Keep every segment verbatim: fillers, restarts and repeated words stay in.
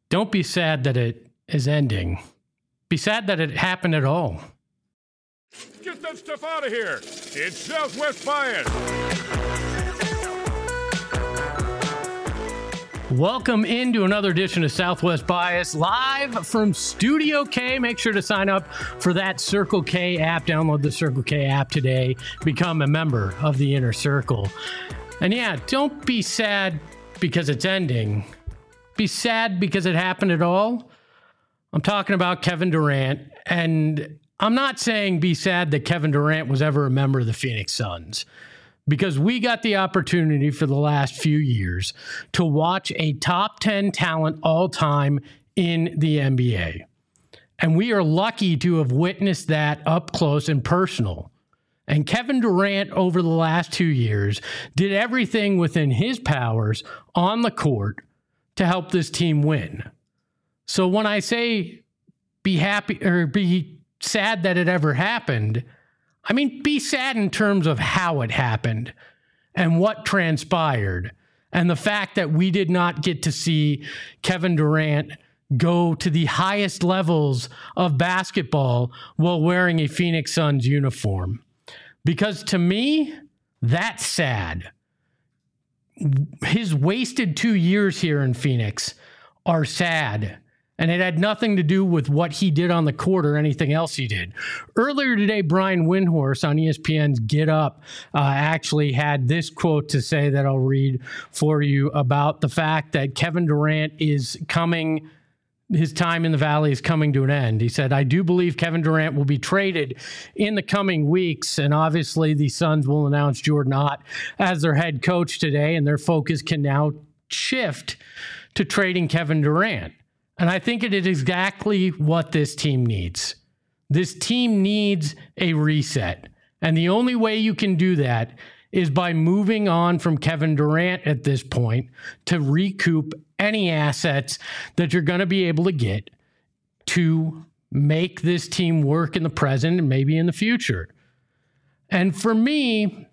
Don't be sad that it is ending. Be sad that it happened at all. Get that stuff out of here. It's Southwest Bias. Welcome into another edition of Southwest Bias, live from Studio K. Make sure to sign up for that Circle K app. Download the Circle K app today. Become a member of the Inner Circle. And yeah, don't be sad because it's ending. Be sad because it happened at all. I'm talking about Kevin Durant, and I'm not saying be sad that Kevin Durant was ever a member of the Phoenix Suns, because we got the opportunity for the last few years to watch a top ten talent all time in the N B A. And we are lucky to have witnessed that up close and personal. And Kevin Durant, over the last two years, did everything within his powers on the court to help this team win. So when I say be happy or be sad that it ever happened, I mean, be sad in terms of how it happened and what transpired, and the fact that we did not get to see Kevin Durant go to the highest levels of basketball while wearing a Phoenix Suns uniform. Because to me, that's sad. His wasted two years here in Phoenix are sad. And it had nothing to do with what he did on the court or anything else he did. Earlier today, Brian Windhorst on E S P N's Get Up uh, actually had this quote to say that I'll read for you about the fact that Kevin Durant is coming, his time in the Valley is coming to an end. He said, "I do believe Kevin Durant will be traded in the coming weeks, and obviously the Suns will announce Jordan Ott as their head coach today, and their focus can now shift to trading Kevin Durant." And I think it is exactly what this team needs. This team needs a reset. And the only way you can do that is by moving on from Kevin Durant at this point to recoup any assets that you're going to be able to get to make this team work in the present and maybe in the future. And for me,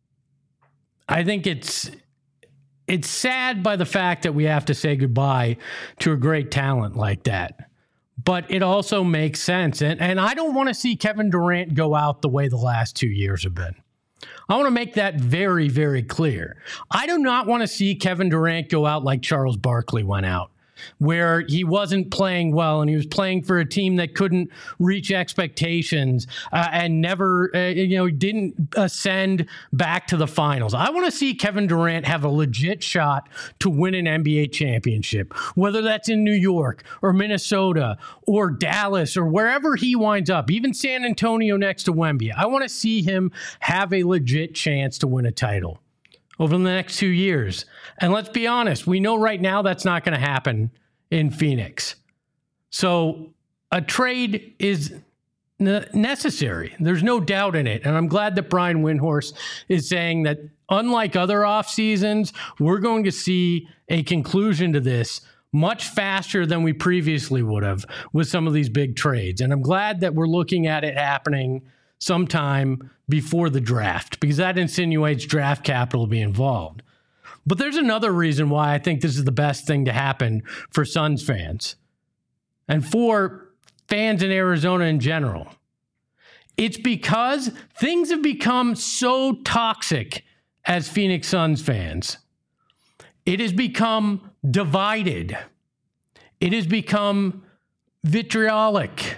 I think it's It's sad by the fact that we have to say goodbye to a great talent like that. But it also makes sense. And, and I don't want to see Kevin Durant go out the way the last two years have been. I want to make that very, very clear. I do not want to see Kevin Durant go out like Charles Barkley went out, where he wasn't playing well and he was playing for a team that couldn't reach expectations uh, and never, uh, you know, didn't ascend back to the finals. I want to see Kevin Durant have a legit shot to win an N B A championship, whether that's in New York or Minnesota or Dallas or wherever he winds up, even San Antonio next to Wemby. I want to see him have a legit chance to win a title over the next two years. And let's be honest, we know right now that's not going to happen in Phoenix. So a trade is ne- necessary. There's no doubt in it. And I'm glad that Brian Windhorst is saying that unlike other off seasons, we're going to see a conclusion to this much faster than we previously would have with some of these big trades. And I'm glad that we're looking at it happening sometime before the draft, because that insinuates draft capital will be involved. But there's another reason why I think this is the best thing to happen for Suns fans and for fans in Arizona in general. It's because things have become so toxic as Phoenix Suns fans. It has become divided. It has become vitriolic.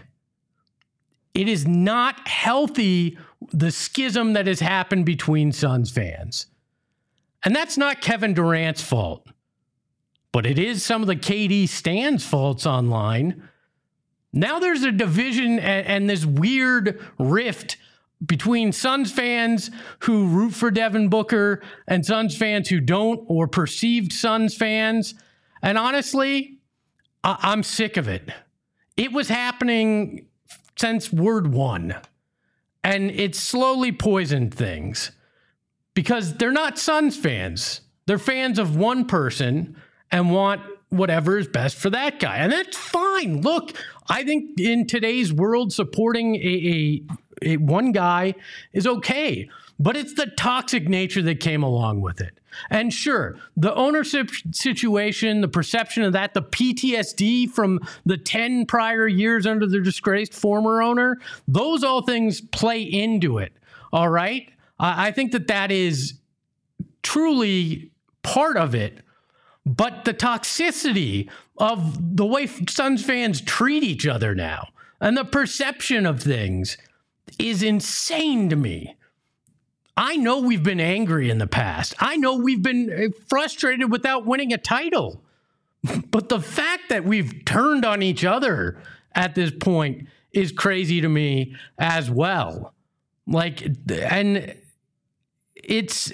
It is not healthy, the schism that has happened between Suns fans. And that's not Kevin Durant's fault, but it is some of the K D stans' faults online. Now there's a division and, and this weird rift between Suns fans who root for Devin Booker and Suns fans who don't, or perceived Suns fans. And honestly, I- I'm sick of it. It was happening since word one. And it's slowly poisoned things because they're not Suns fans. They're fans of one person and want whatever is best for that guy. And that's fine. Look, I think in today's world, supporting a, a, a one guy is okay. But it's the toxic nature that came along with it. And sure, the ownership situation, the perception of that, the P T S D from the ten prior years under the disgraced former owner, those all things play into it. All right. I think that that is truly part of it. But the toxicity of the way Suns fans treat each other now and the perception of things is insane to me. I know we've been angry in the past. I know we've been frustrated without winning a title. But the fact that we've turned on each other at this point is crazy to me as well. Like, and it's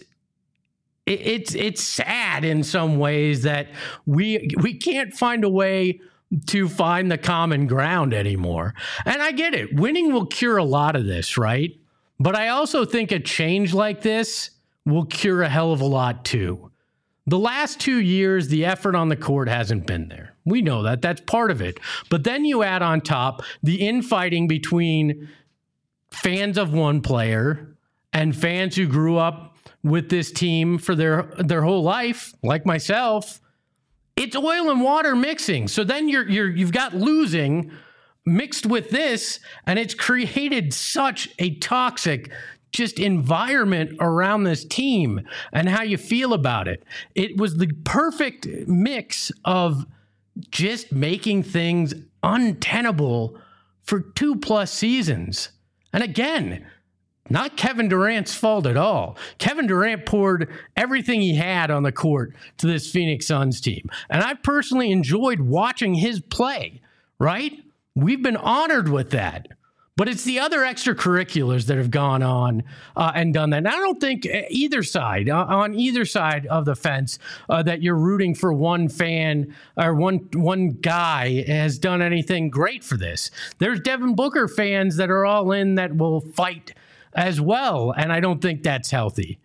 it's it's sad in some ways that we we can't find a way to find the common ground anymore. And I get it. Winning will cure a lot of this, right? But I also think a change like this will cure a hell of a lot too. The last two years, the effort on the court hasn't been there. We know that. That's part of it. But then you add on top the infighting between fans of one player and fans who grew up with this team for their, their whole life, like myself. It's oil and water mixing. So then you're you're you've got losing mixed with this, and it's created such a toxic just environment around this team and how you feel about it. It was the perfect mix of just making things untenable for two plus seasons. And again, not Kevin Durant's fault at all. Kevin Durant poured everything he had on the court to this Phoenix Suns team. And I personally enjoyed watching his play, right? We've been honored with that. But it's the other extracurriculars that have gone on uh, and done that. And I don't think either side, uh, on either side of the fence, uh, that you're rooting for one fan or one one guy has done anything great for this. There's Devin Booker fans that are all in that will fight as well, and I don't think that's healthy.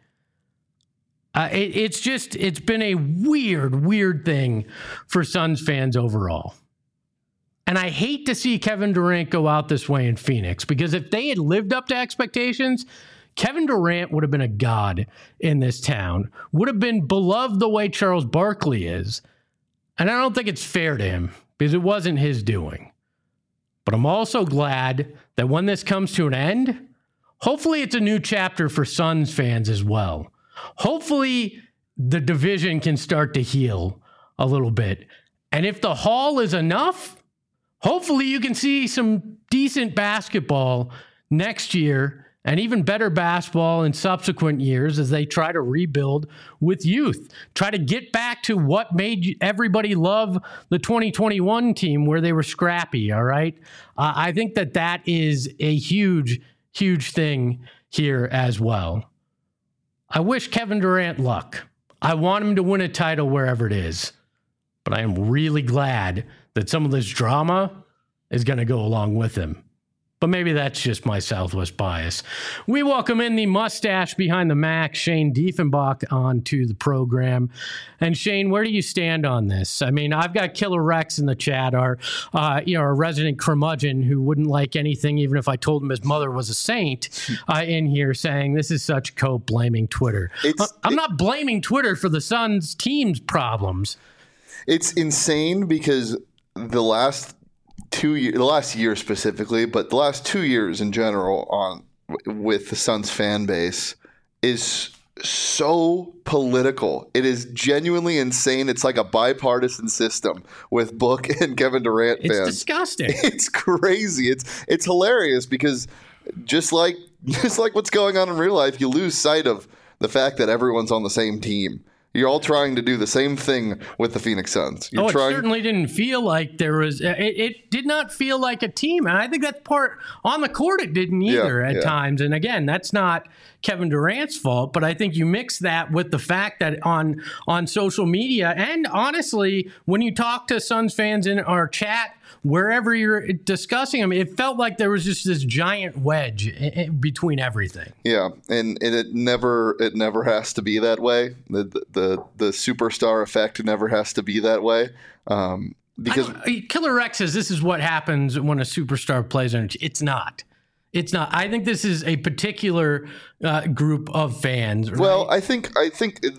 Uh, it, it's just, it's been a weird, weird thing for Suns fans overall. And I hate to see Kevin Durant go out this way in Phoenix, because if they had lived up to expectations, Kevin Durant would have been a god in this town, would have been beloved the way Charles Barkley is. And I don't think it's fair to him, because it wasn't his doing. But I'm also glad that when this comes to an end, hopefully it's a new chapter for Suns fans as well. Hopefully the division can start to heal a little bit. And if the haul is enough, hopefully you can see some decent basketball next year and even better basketball in subsequent years as they try to rebuild with youth. Try to get back to what made everybody love the twenty twenty-one team, where they were scrappy, all right? Uh, I think that that is a huge, huge thing here as well. I wish Kevin Durant luck. I want him to win a title wherever it is. But I am really glad that some of this drama is going to go along with him. But maybe that's just my Southwest bias. We welcome in the mustache behind the Mac, Shane Diefenbach, onto the program. And Shane, where do you stand on this? I mean, I've got Killer Rex in the chat, our, uh, you know, our resident curmudgeon who wouldn't like anything, even if I told him his mother was a saint, uh, in here saying this is such cope blaming Twitter. It's, I'm it, not blaming Twitter for the Suns team's problems. It's insane because the last two years, the last year specifically, but the last two years in general on with the Suns fan base is so political. It is genuinely insane. It's like a bipartisan system with Book and Kevin Durant fans. It's disgusting. It's crazy. It's it's hilarious because just like just like what's going on in real life, you lose sight of the fact that everyone's on the same team. You're all trying to do the same thing with the Phoenix Suns. You're oh, it trying- certainly didn't feel like there was it, – it did not feel like a team. And I think that's part – on the court it didn't either yeah, at yeah. times. And, again, that's not Kevin Durant's fault. But I think you mix that with the fact that on, on social media and, honestly, when you talk to Suns fans in our chat – wherever you're discussing them, it felt like there was just this giant wedge in between everything. Yeah, and, and it never it never has to be that way. The the the superstar effect never has to be that way. Um, because Killer Rex says this is what happens when a superstar plays on. It's not. It's not. I think this is a particular uh, group of fans. Right? Well, I think I think. It,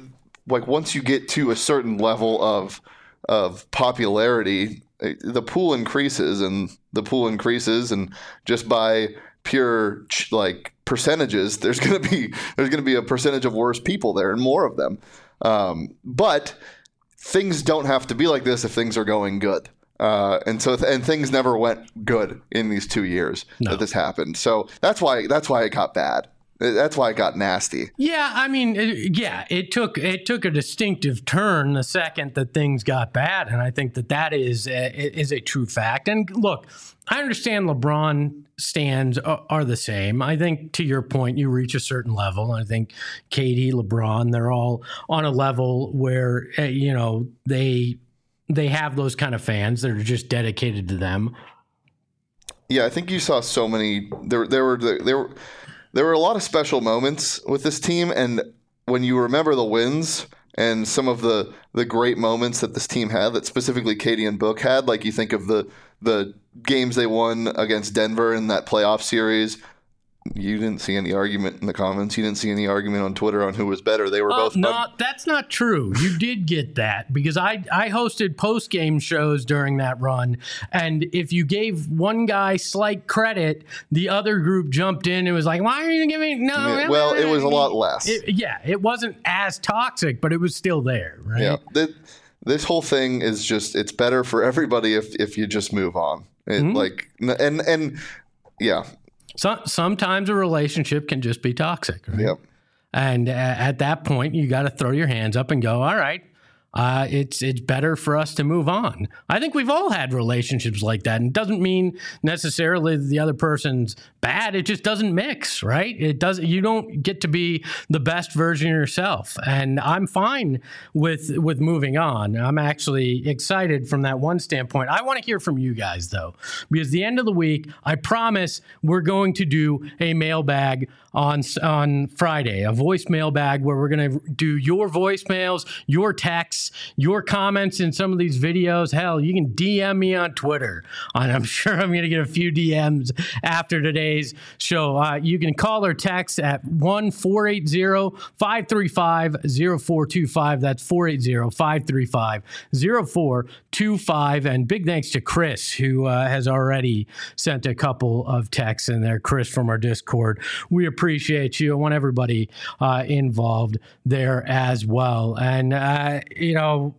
like once you get to a certain level of of popularity, the pool increases and the pool increases, and just by pure like percentages, there's gonna be there's gonna be a percentage of worse people there and more of them. Um, but things don't have to be like this if things are going good. Uh, and so, th- and things never went good in these two years no. that this happened. So that's why, that's why it got bad. That's why it got nasty. Yeah, I mean, it, yeah, it took it took a distinctive turn the second that things got bad, and I think that that is a, is a true fact. And look, I understand LeBron stands are, are the same. I think to your point, you reach a certain level. I think K D, LeBron, they're all on a level where uh, you know they. They have those kind of fans that are just dedicated to them. Yeah, I think you saw so many. There, there were there were there were a lot of special moments with this team, and when you remember the wins and some of the the great moments that this team had, that specifically Katie and Book had, like you think of the the games they won against Denver in that playoff series. You didn't see any argument in the comments. You didn't see any argument on Twitter on who was better. They were uh, both. No, un- that's not true. You did get that because I, I hosted post-game shows during that run. And if you gave one guy slight credit, the other group jumped in and was like, why are you giving no? Yeah, well, it was a lot less. It, yeah, it wasn't as toxic, but it was still there, right? Yeah. The, this whole thing is just, it's better for everybody if, if you just move on. It, mm-hmm. Like, and, and yeah. So, sometimes a relationship can just be toxic. Right? Yep. And uh, at that point, you got to throw your hands up and go, all right, uh, it's it's better for us to move on. I think we've all had relationships like that. And it doesn't mean necessarily the other person's bad. It just doesn't mix, right? It doesn't. You don't get to be the best version of yourself. And I'm fine with with moving on. I'm actually excited from that one standpoint. I want to hear from you guys, though, because the end of the week, I promise we're going to do a mailbag on on Friday, a voice mailbag where we're going to do your voicemails, your texts, your comments in some of these videos. Hell, you can D M me on Twitter, and I'm sure I'm going to get a few D Ms after today's show. Uh, you can call or text at one four eight zero, five three five, zero four two five. That's four eight zero, five three five, zero four two five. And big thanks to Chris, who uh, has already sent a couple of texts in there. Chris from our Discord. We appreciate you. I want everybody uh, involved there as well. And, uh, you know,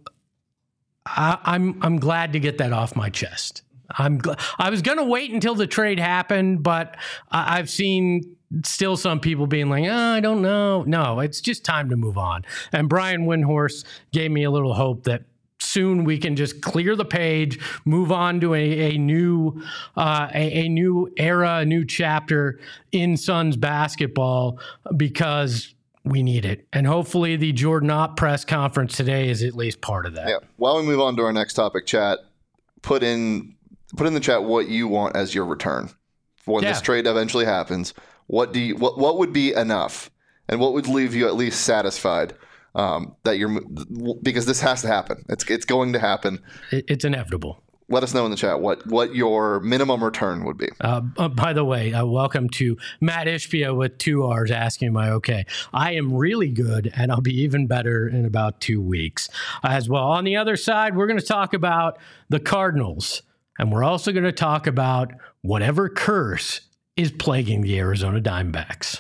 I, I'm I'm glad to get that off my chest. I'm gl- I was going to wait until the trade happened, but I- I've seen still some people being like, oh, I don't know. No, it's just time to move on. And Brian Windhorst gave me a little hope that soon we can just clear the page, move on to a, a new uh, a, a new era, a new chapter in Suns basketball, because we need it. And hopefully the Jordan Ott press conference today is at least part of that. Yeah. While we move on to our next topic, chat, put in put in the chat what you want as your return when yeah. this trade eventually happens. What do you what what would be enough, and what would leave you at least satisfied? Um, that you're because this has to happen. It's it's going to happen. It's inevitable. Let us know in the chat what what your minimum return would be. Uh, uh, by the way, uh, welcome to Matt Ishbia with two R's asking, am I okay? I am really good, and I'll be even better in about two weeks as well. On the other side, we're going to talk about the Cardinals, and we're also going to talk about whatever curse is plaguing the Arizona Diamondbacks.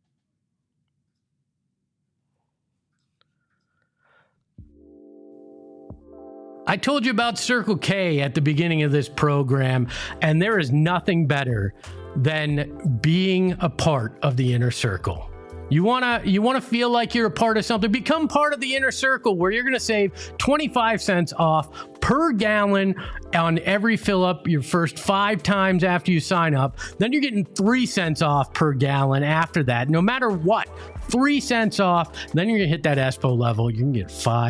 I told you about Circle K at the beginning of this program, and there is nothing better than being a part of the inner circle. You wanna you wanna feel like you're a part of something? Become part of the inner circle, where you're gonna save twenty-five cents off per gallon on every fill up your first five times after you sign up. Then you're getting three cents off per gallon after that, no matter what. Three cents off. Then you're gonna hit that E S P O level. You can get five,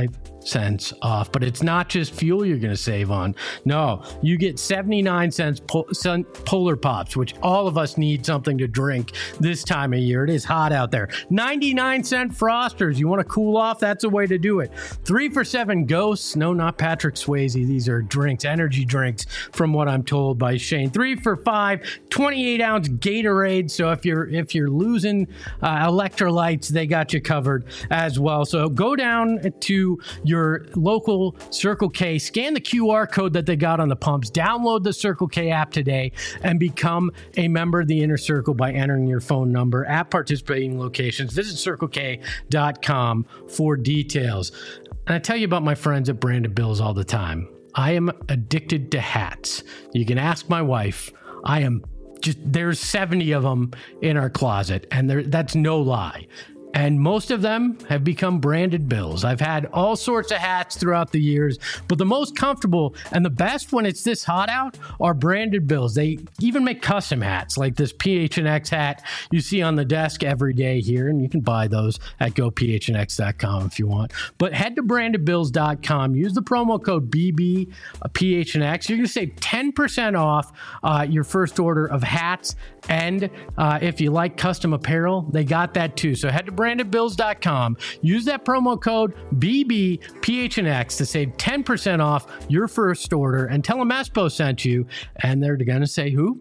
cents off. But it's not just fuel you're going to save on. No, you get seventy-nine cents pol- Polar Pops, which all of us need something to drink this time of year. It is hot out there. ninety-nine cent Frosters. You want to cool off? That's a way to do it. Three for seven Ghosts. No, not Patrick Swayze. These are drinks, energy drinks, from what I'm told by Shane. Three for five, twenty-eight ounce Gatorade. So if you're if you're losing uh, electrolytes, they got you covered as well. So go down to your local Circle K, scan the Q R code that they got on the pumps, download the Circle K app today, and become a member of the Inner Circle by entering your phone number at participating locations. Visit circle k dot com for details. And I tell you about my friends at Branded Bills all the time. I am addicted to hats. You can ask my wife. I am just, there's seventy of them in our closet, and there, that's no lie. And most of them have become Branded Bills. I've had all sorts of hats throughout the years, but the most comfortable and the best when it's this hot out are Branded Bills. They even make custom hats like this P H N X hat you see on the desk every day here, and you can buy those at go p h n x dot com if you want. But head to branded bills dot com, use the promo code B B P H N X. You're going to save ten percent off uh, your first order of hats, and uh, if you like custom apparel, they got that too. So head to branded bills dot com, use that promo code B B P H N X to save ten percent off your first order, and tell them Espo sent you, and they're going to say who?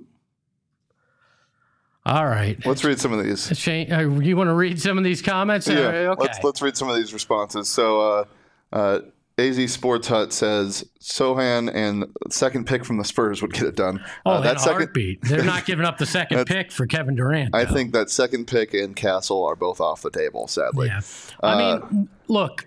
All right. Let's read some of these. Shane, uh, you want to read some of these comments? Yeah, uh, okay. let's, let's read some of these responses. So uh, uh, A Z Sports Hut says Sohan and second pick from the Spurs would get it done. Oh, uh, that that second heartbeat. They're not giving up the second pick for Kevin Durant, though. I think that second pick and Castle are both off the table, sadly. Yeah. I Uh, mean, look,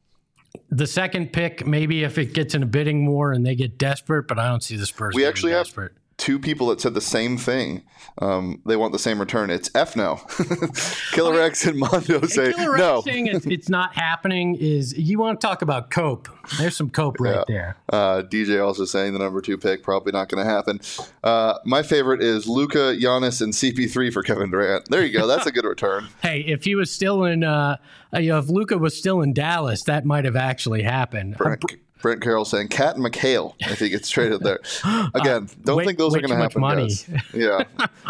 the second pick, maybe if it gets in a bidding war and they get desperate, but I don't see the Spurs We getting actually desperate. have two people that said the same thing. Um, they want the same return. It's F no. Killer X and Mondo say Killer X no. saying it's, it's not happening is, you want to talk about cope. There's some cope right Yeah. there. Uh, D J also saying the number two pick probably not going to happen. Uh, my favorite is Luka, Giannis, and C P three for Kevin Durant. There you go. That's a good return. Hey, if he was still in, uh, you know, if Luka was still in Dallas, that might have actually happened. Brent, Brent Carroll saying Cat and McHale if he gets traded there. Again, don't way- think those way are going too to much happen. money. Guys. Yeah.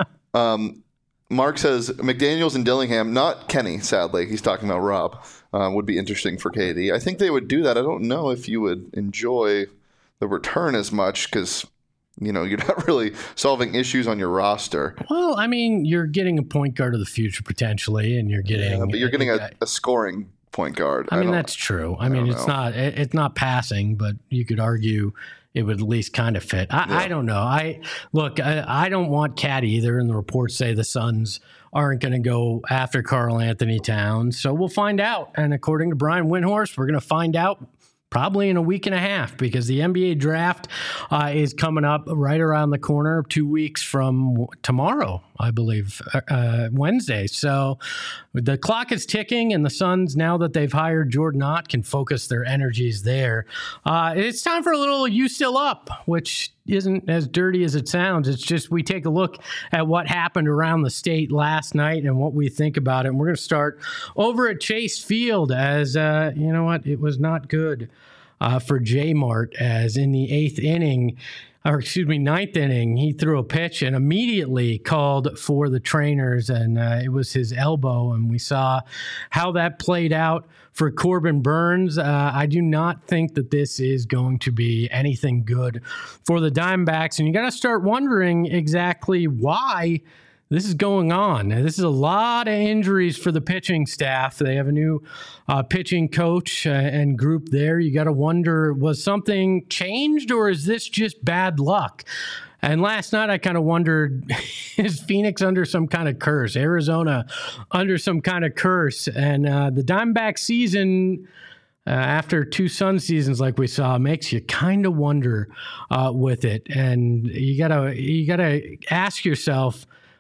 Um, Mark says McDaniels and Dillingham, not Kenny, sadly. He's talking about Rob. Um, would be interesting for K D. I think they would do that. I don't know if you would enjoy the return as much because, you know, you're not really solving issues on your roster. Well, I mean, you're getting a point guard of the future potentially, and you're getting, Yeah, but you're getting a, a scoring point guard. I mean, don't- that's true. I, mean, don't it's know. not it, it's not passing, but you could argue it would at least kind of fit. I, Yeah. I don't know. I look. I, I don't want Cat either, and the reports say the Suns aren't going to go after Karl Anthony Towns. So we'll find out. And according to Brian Windhorst, we're going to find out probably in a week and a half, because the N B A draft uh, is coming up right around the corner, two weeks from tomorrow, I believe, uh, Wednesday. So the clock is ticking, and the Suns, now that they've hired Jordan Ott, can focus their energies there. Uh, it's time for a little You Still Up, which isn't as dirty as it sounds. It's just we take a look at what happened around the state last night and what we think about it. And we're going to start over at Chase Field, as, uh, you know what, it was not good uh, for J-Mart, as in the eighth inning, or excuse me, ninth inning, he threw a pitch and immediately called for the trainers, and uh, it was his elbow, and we saw how that played out for Corbin Burns. Uh, I do not think that this is going to be anything good for the Diamondbacks, and you got to start wondering exactly why this is going on. Now, this is a lot of injuries for the pitching staff. They have a new uh, pitching coach uh, and group there. You got to wonder, was something changed, or is this just bad luck? And last night, I kind of wondered, is Phoenix under some kind of curse? Arizona under some kind of curse? And uh, the Diamondback season, uh, after two Sun seasons like we saw, makes you kind of wonder uh, with it. And you gotta you gotta ask yourself,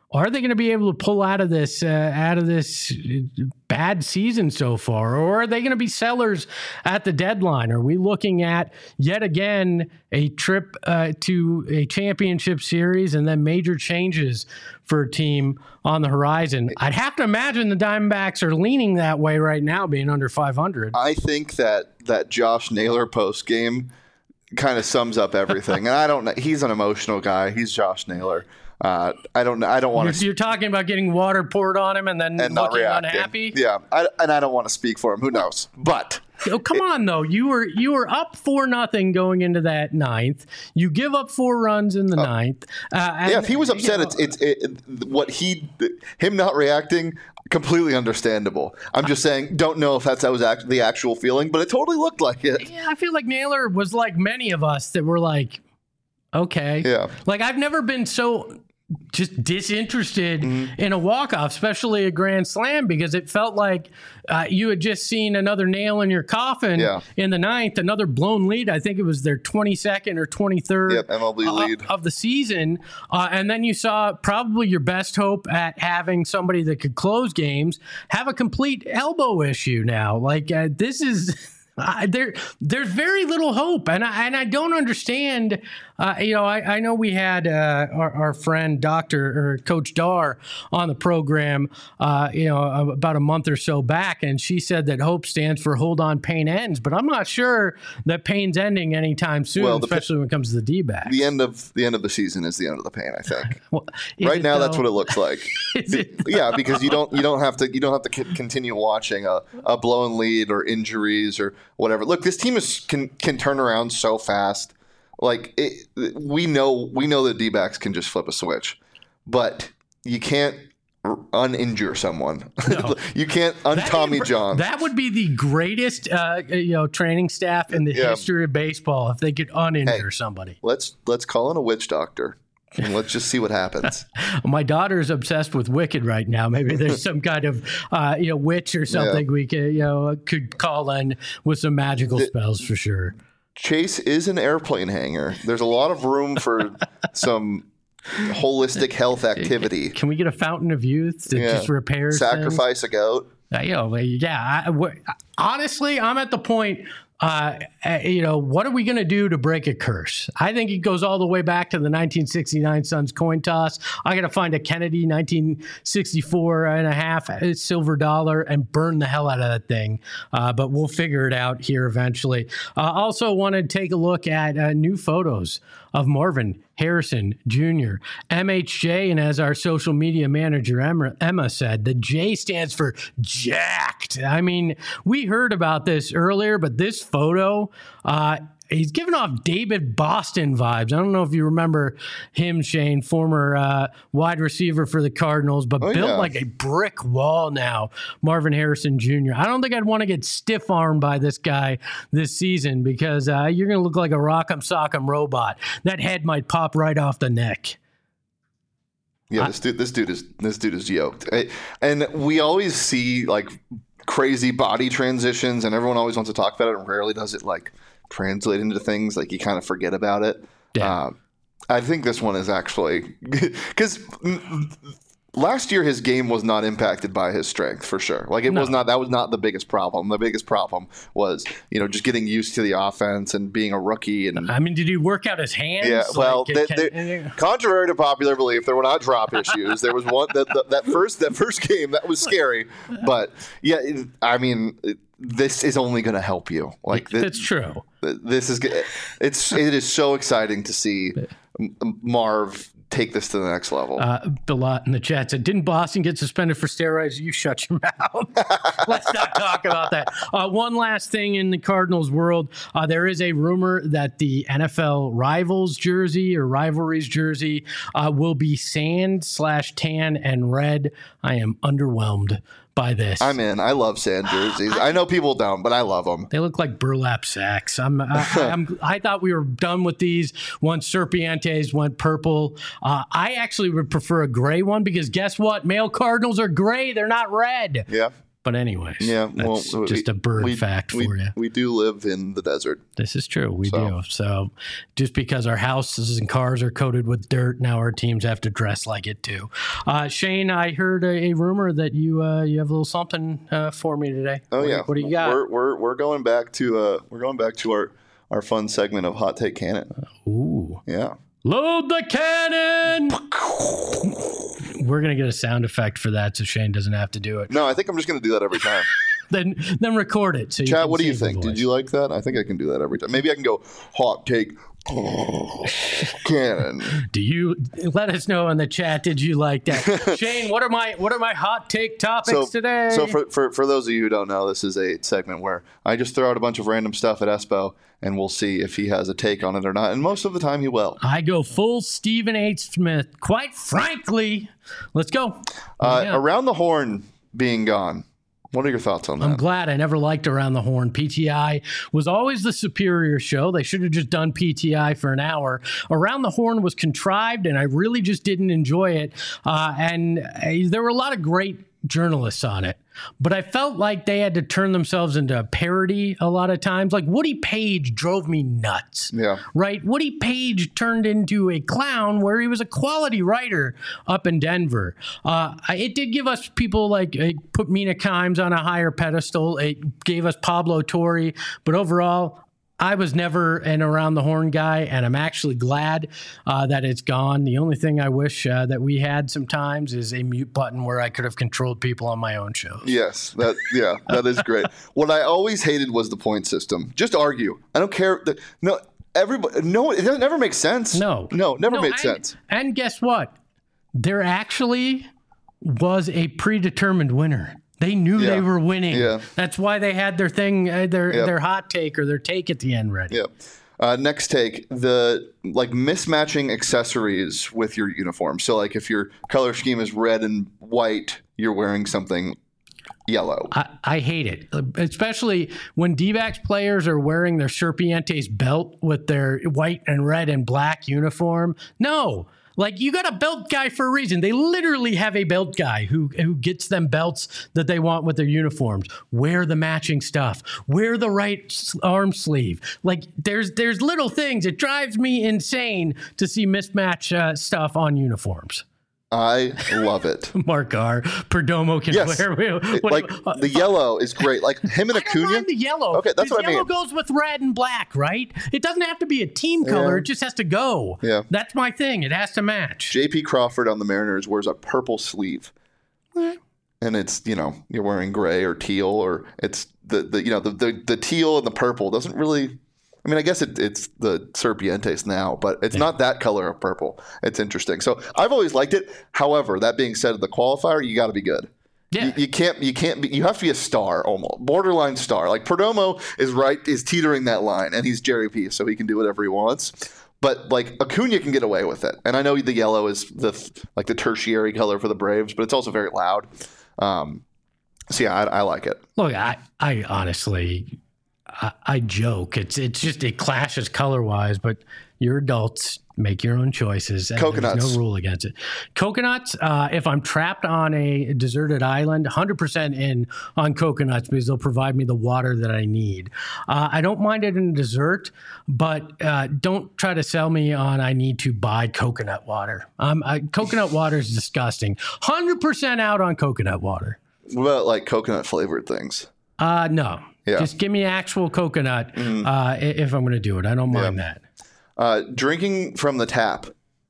Are they going to be able to pull out of this uh, out of this bad season so far, or are they going to be sellers at the deadline? Are we looking at yet again a trip uh, to a championship series and then major changes for a team on the horizon? I'd have to imagine the Diamondbacks are leaning that way right now, being under five hundred. I think that that Josh Naylor post game kind of sums up everything, and I don't know. He's an emotional guy. He's Josh Naylor. Uh, I don't. I don't want to. You're, you're talking about getting water poured on him and then and not looking reacting. unhappy. Yeah, I, and I don't want to speak for him. Who knows? But oh, come on, though. You were you were up four nothing going into that ninth. You give up four runs in the uh, ninth. Uh, and, yeah, if he was upset, you know, it's it's it, what he him not reacting. Completely understandable. I'm just saying, don't know if that's that was act, the actual feeling, but it totally looked like it. Yeah, I feel like Naylor was like many of us that were like, okay, yeah. Like I've never been so just disinterested mm-hmm. in a walk-off, especially a grand slam, because it felt like uh, you had just seen another nail in your coffin yeah. in the ninth, another blown lead. I think it was their twenty-second or twenty-third yep, M L B lead uh, of the season. Uh, and then you saw probably your best hope at having somebody that could close games have a complete elbow issue now. Like uh, this is... Uh, there, there's very little hope, and I, and I don't understand. Uh, you know, I, I know we had uh, our, our friend Doctor or Coach Dar on the program, uh, you know, about a month or so back, and she said that hope stands for hold on, pain ends. But I'm not sure that pain's ending anytime soon, well, especially when it comes to the D-backs. The end of the end of the season is the end of the pain, I think. Well, right now, though? That's what it looks like. it yeah, because you don't you don't have to you don't have to c- continue watching a, a blown lead or injuries or whatever. Look, this team is can can turn around so fast. Like it, we know, we know that D-backs can just flip a switch, but you can't uninjure someone. No. You can't un-Tommy John. That would be the greatest, uh, you know, training staff in the yeah. history of baseball if they could uninjure hey, somebody. Let's let's call in a witch doctor. And let's just see what happens. My daughter's obsessed with Wicked right now. Maybe there's some kind of uh, you know witch or something yeah. we could you know could call in with some magical spells for sure. Chase is an airplane hangar. There's a lot of room for some holistic health activity. Can we get a fountain of youth that yeah. just repairs Sacrifice things? a goat? Uh, you know, yeah. I, w- honestly, I'm at the point. Uh, you know, what are we going to do to break a curse? I think it goes all the way back to the nineteen sixty-nine Suns coin toss. I got to find a Kennedy nineteen sixty-four and a half silver dollar and burn the hell out of that thing. Uh, but we'll figure it out here eventually. Uh, also want to take a look at uh, new photos of Marvin Harrison Junior M H J, and as our social media manager Emma, Emma said, the J stands for jacked. I mean, we heard about this earlier, but this photo, uh, he's giving off David Boston vibes. I don't know if you remember him, Shane, former uh, wide receiver for the Cardinals, but oh, built yeah. like a brick wall now, Marvin Harrison Junior I don't think I'd want to get stiff-armed by this guy this season because uh, you're going to look like a rock'em sock'em robot. That head might pop right off the neck. Yeah, this dude, this dude is this dude is yoked, and we always see like crazy body transitions, and everyone always wants to talk about it, and rarely does it like translate into things. Like you kind of forget about it. Yeah. Uh, I think this one is actually because last year his game was not impacted by his strength for sure. Like it no. was not. That was not the biggest problem. The biggest problem was you know just getting used to the offense and being a rookie. And I mean, did he work out his hands? Yeah. Well, like, they, can, they, contrary to popular belief, there were not drop issues. There was one that that, that first that first game that was scary. But yeah, it, I mean. It, this is only going to help you. Like this, it's true. This is it's it is so exciting to see Marv take this to the next level. Uh, Bilot in the chat said, "Didn't Boston get suspended for steroids?" You shut your mouth. Let's not talk about that. Uh, one last thing in the Cardinals world, uh, there is a rumor that the N F L Rivals jersey or Rivalries jersey uh, will be sand slash tan and red. I am underwhelmed by this. I'm in. I love sand jerseys. I, I know people don't, but I love them. They look like burlap sacks. I'm, I, I'm, I thought we were done with these once Serpientes went purple. Uh, I actually would prefer a gray one because guess what? Male Cardinals are gray. They're not red. Yeah. But anyways, yeah, that's well, just we, a bird we, fact we, for you. We do live in the desert. This is true. We so. do. So just because our houses and cars are coated with dirt, now our teams have to dress like it too. Uh, Shane, I heard a, a rumor that you uh, you have a little something uh, for me today. Oh what, yeah, what do you got? We're we're, we're going back to uh, we're going back to our, our fun segment of Hot Take Cannon. Ooh, yeah. Load the cannon. We're gonna get a sound effect for that, so Shane doesn't have to do it. No, I think I'm just gonna do that every time. then then record it. So Chad, you what do you think? Did you like that? I think I can do that every time. Maybe I can go Hot Take Cannon. Do you let us know in the chat? Did you like that, Shane? What are my what are my hot take topics so, today? So for, for for those of you who don't know, this is a segment where I just throw out a bunch of random stuff at Espo, and we'll see if he has a take on it or not. And most of the time, he will. I go full Stephen H. Smith. Quite frankly, let's go. Uh, yeah. Around the Horn being gone. What are your thoughts on that? I'm glad. I never liked Around the Horn. P T I was always the superior show. They should have just done P T I for an hour. Around the Horn was contrived, and I really just didn't enjoy it. Uh, and uh, there were a lot of great journalists on it, but I felt like they had to turn themselves into a parody a lot of times. Like Woody Page drove me nuts. Yeah. Right? Woody Page turned into a clown where he was a quality writer up in Denver. Uh, it did give us people like, it put Mina Kimes on a higher pedestal. It gave us Pablo Torre, but overall, I was never an Around the Horn guy, and I'm actually glad uh, that it's gone. The only thing I wish uh, that we had sometimes is a mute button where I could have controlled people on my own shows. Yes, that yeah, that is great. What I always hated was the point system. Just argue. I don't care. The, no, everybody. No, it doesn't, never makes sense. No, no, never no, made and, sense. And guess what? There actually was a predetermined winner. They knew Yeah. they were winning. Yeah. That's why they had their thing, uh, their Yep. their hot take or their take at the end ready. Yeah. Uh, next take, the like mismatching accessories with your uniform. So like if your color scheme is red and white, you're wearing something yellow. I, I hate it, especially when D-backs players are wearing their Serpientes belt with their white and red and black uniform. No. Like, you got a belt guy for a reason. They literally have a belt guy who who gets them belts that they want with their uniforms. Wear the matching stuff. Wear the right arm sleeve. Like, there's there's little things. It drives me insane to see mismatch uh, stuff on uniforms. I love it. Mark R. Perdomo can Yes. wear. What, like uh, the yellow is great. Like him and I don't Acuna. mind the yellow. Okay, that's what I yellow mean. goes with red and black, right? It doesn't have to be a team color. Yeah. It just has to go. Yeah. That's my thing. It has to match. J P Crawford on the Mariners wears a purple sleeve. And it's, you know, you're wearing gray or teal, or it's the, the you know, the, the, the teal and the purple doesn't really, I mean, I guess it, it's the Serpientes now, but it's yeah. not that color of purple. It's interesting. So I've always liked it. However, that being said, the qualifier, you got to be good. Yeah. You, you can't, you can't be, you have to be a star almost, borderline star. Like Perdomo is right, is teetering that line, and he's Jerry P, so he can do whatever he wants. But like Acuna can get away with it. And I know the yellow is the like the tertiary color for the Braves, but it's also very loud. Um, so yeah, I, I like it. Look, I, I honestly, I, I joke. It's it's just it clashes color wise, but you're adults. Make your own choices. And Coconuts. There's no rule against it. Coconuts, uh, if I'm trapped on a deserted island, one hundred percent in on coconuts because they'll provide me the water that I need. Uh, I don't mind it in dessert, but uh, don't try to sell me on I need to buy coconut water. Um, I, coconut water is disgusting. one hundred percent out on coconut water. What about like coconut flavored things? Uh, no. Yeah. Just give me actual coconut mm. uh, if I'm going to do it. I don't mind yeah. that. Uh, drinking from the tap.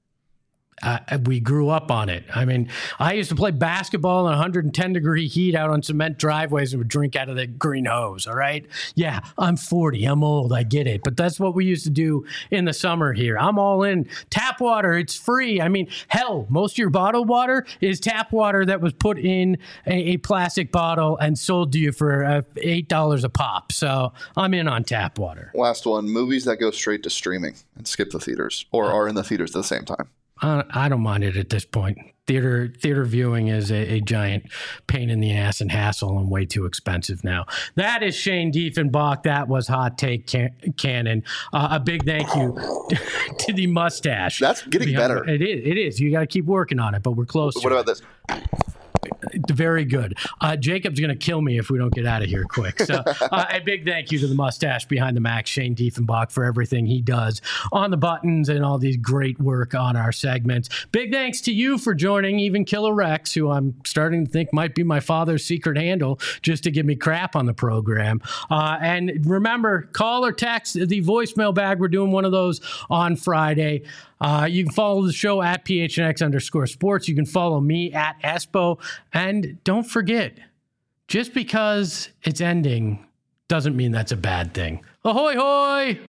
Uh, we grew up on it. I mean, I used to play basketball in one hundred ten degree heat out on cement driveways and would drink out of the green hose. All right. Yeah, I'm forty. I'm old. I get it. But that's what we used to do in the summer here. I'm all in. Tap water. It's free. I mean, hell, most of your bottled water is tap water that was put in a, a plastic bottle and sold to you for uh, eight dollars a pop. So I'm in on tap water. Last one, movies that go straight to streaming and skip the theaters or are in the theaters at the same time. Uh, I don't mind it at this point. Theater theater viewing is a, a giant pain in the ass and hassle and way too expensive now. That is Shane Diefenbach. That was Hot Take can- Cannon. Uh, a big thank you to the mustache. That's getting better. It is. It is. You got to keep working on it, but we're close. What about this? very good. Uh, Jacob's going to kill me if we don't get out of here quick. So uh, a big thank you to the mustache behind the Max, Shane Diefenbach, for everything he does on the buttons and all these great work on our segments. Big thanks to you for joining, even Killer Rex, who I'm starting to think might be my father's secret handle just to give me crap on the program. Uh, and remember, call or text the voicemail bag. We're doing one of those on Friday. Uh, you can follow the show at P H N X underscore sports. You can follow me at Espo. And don't forget, just because it's ending doesn't mean that's a bad thing. Ahoy, hoy!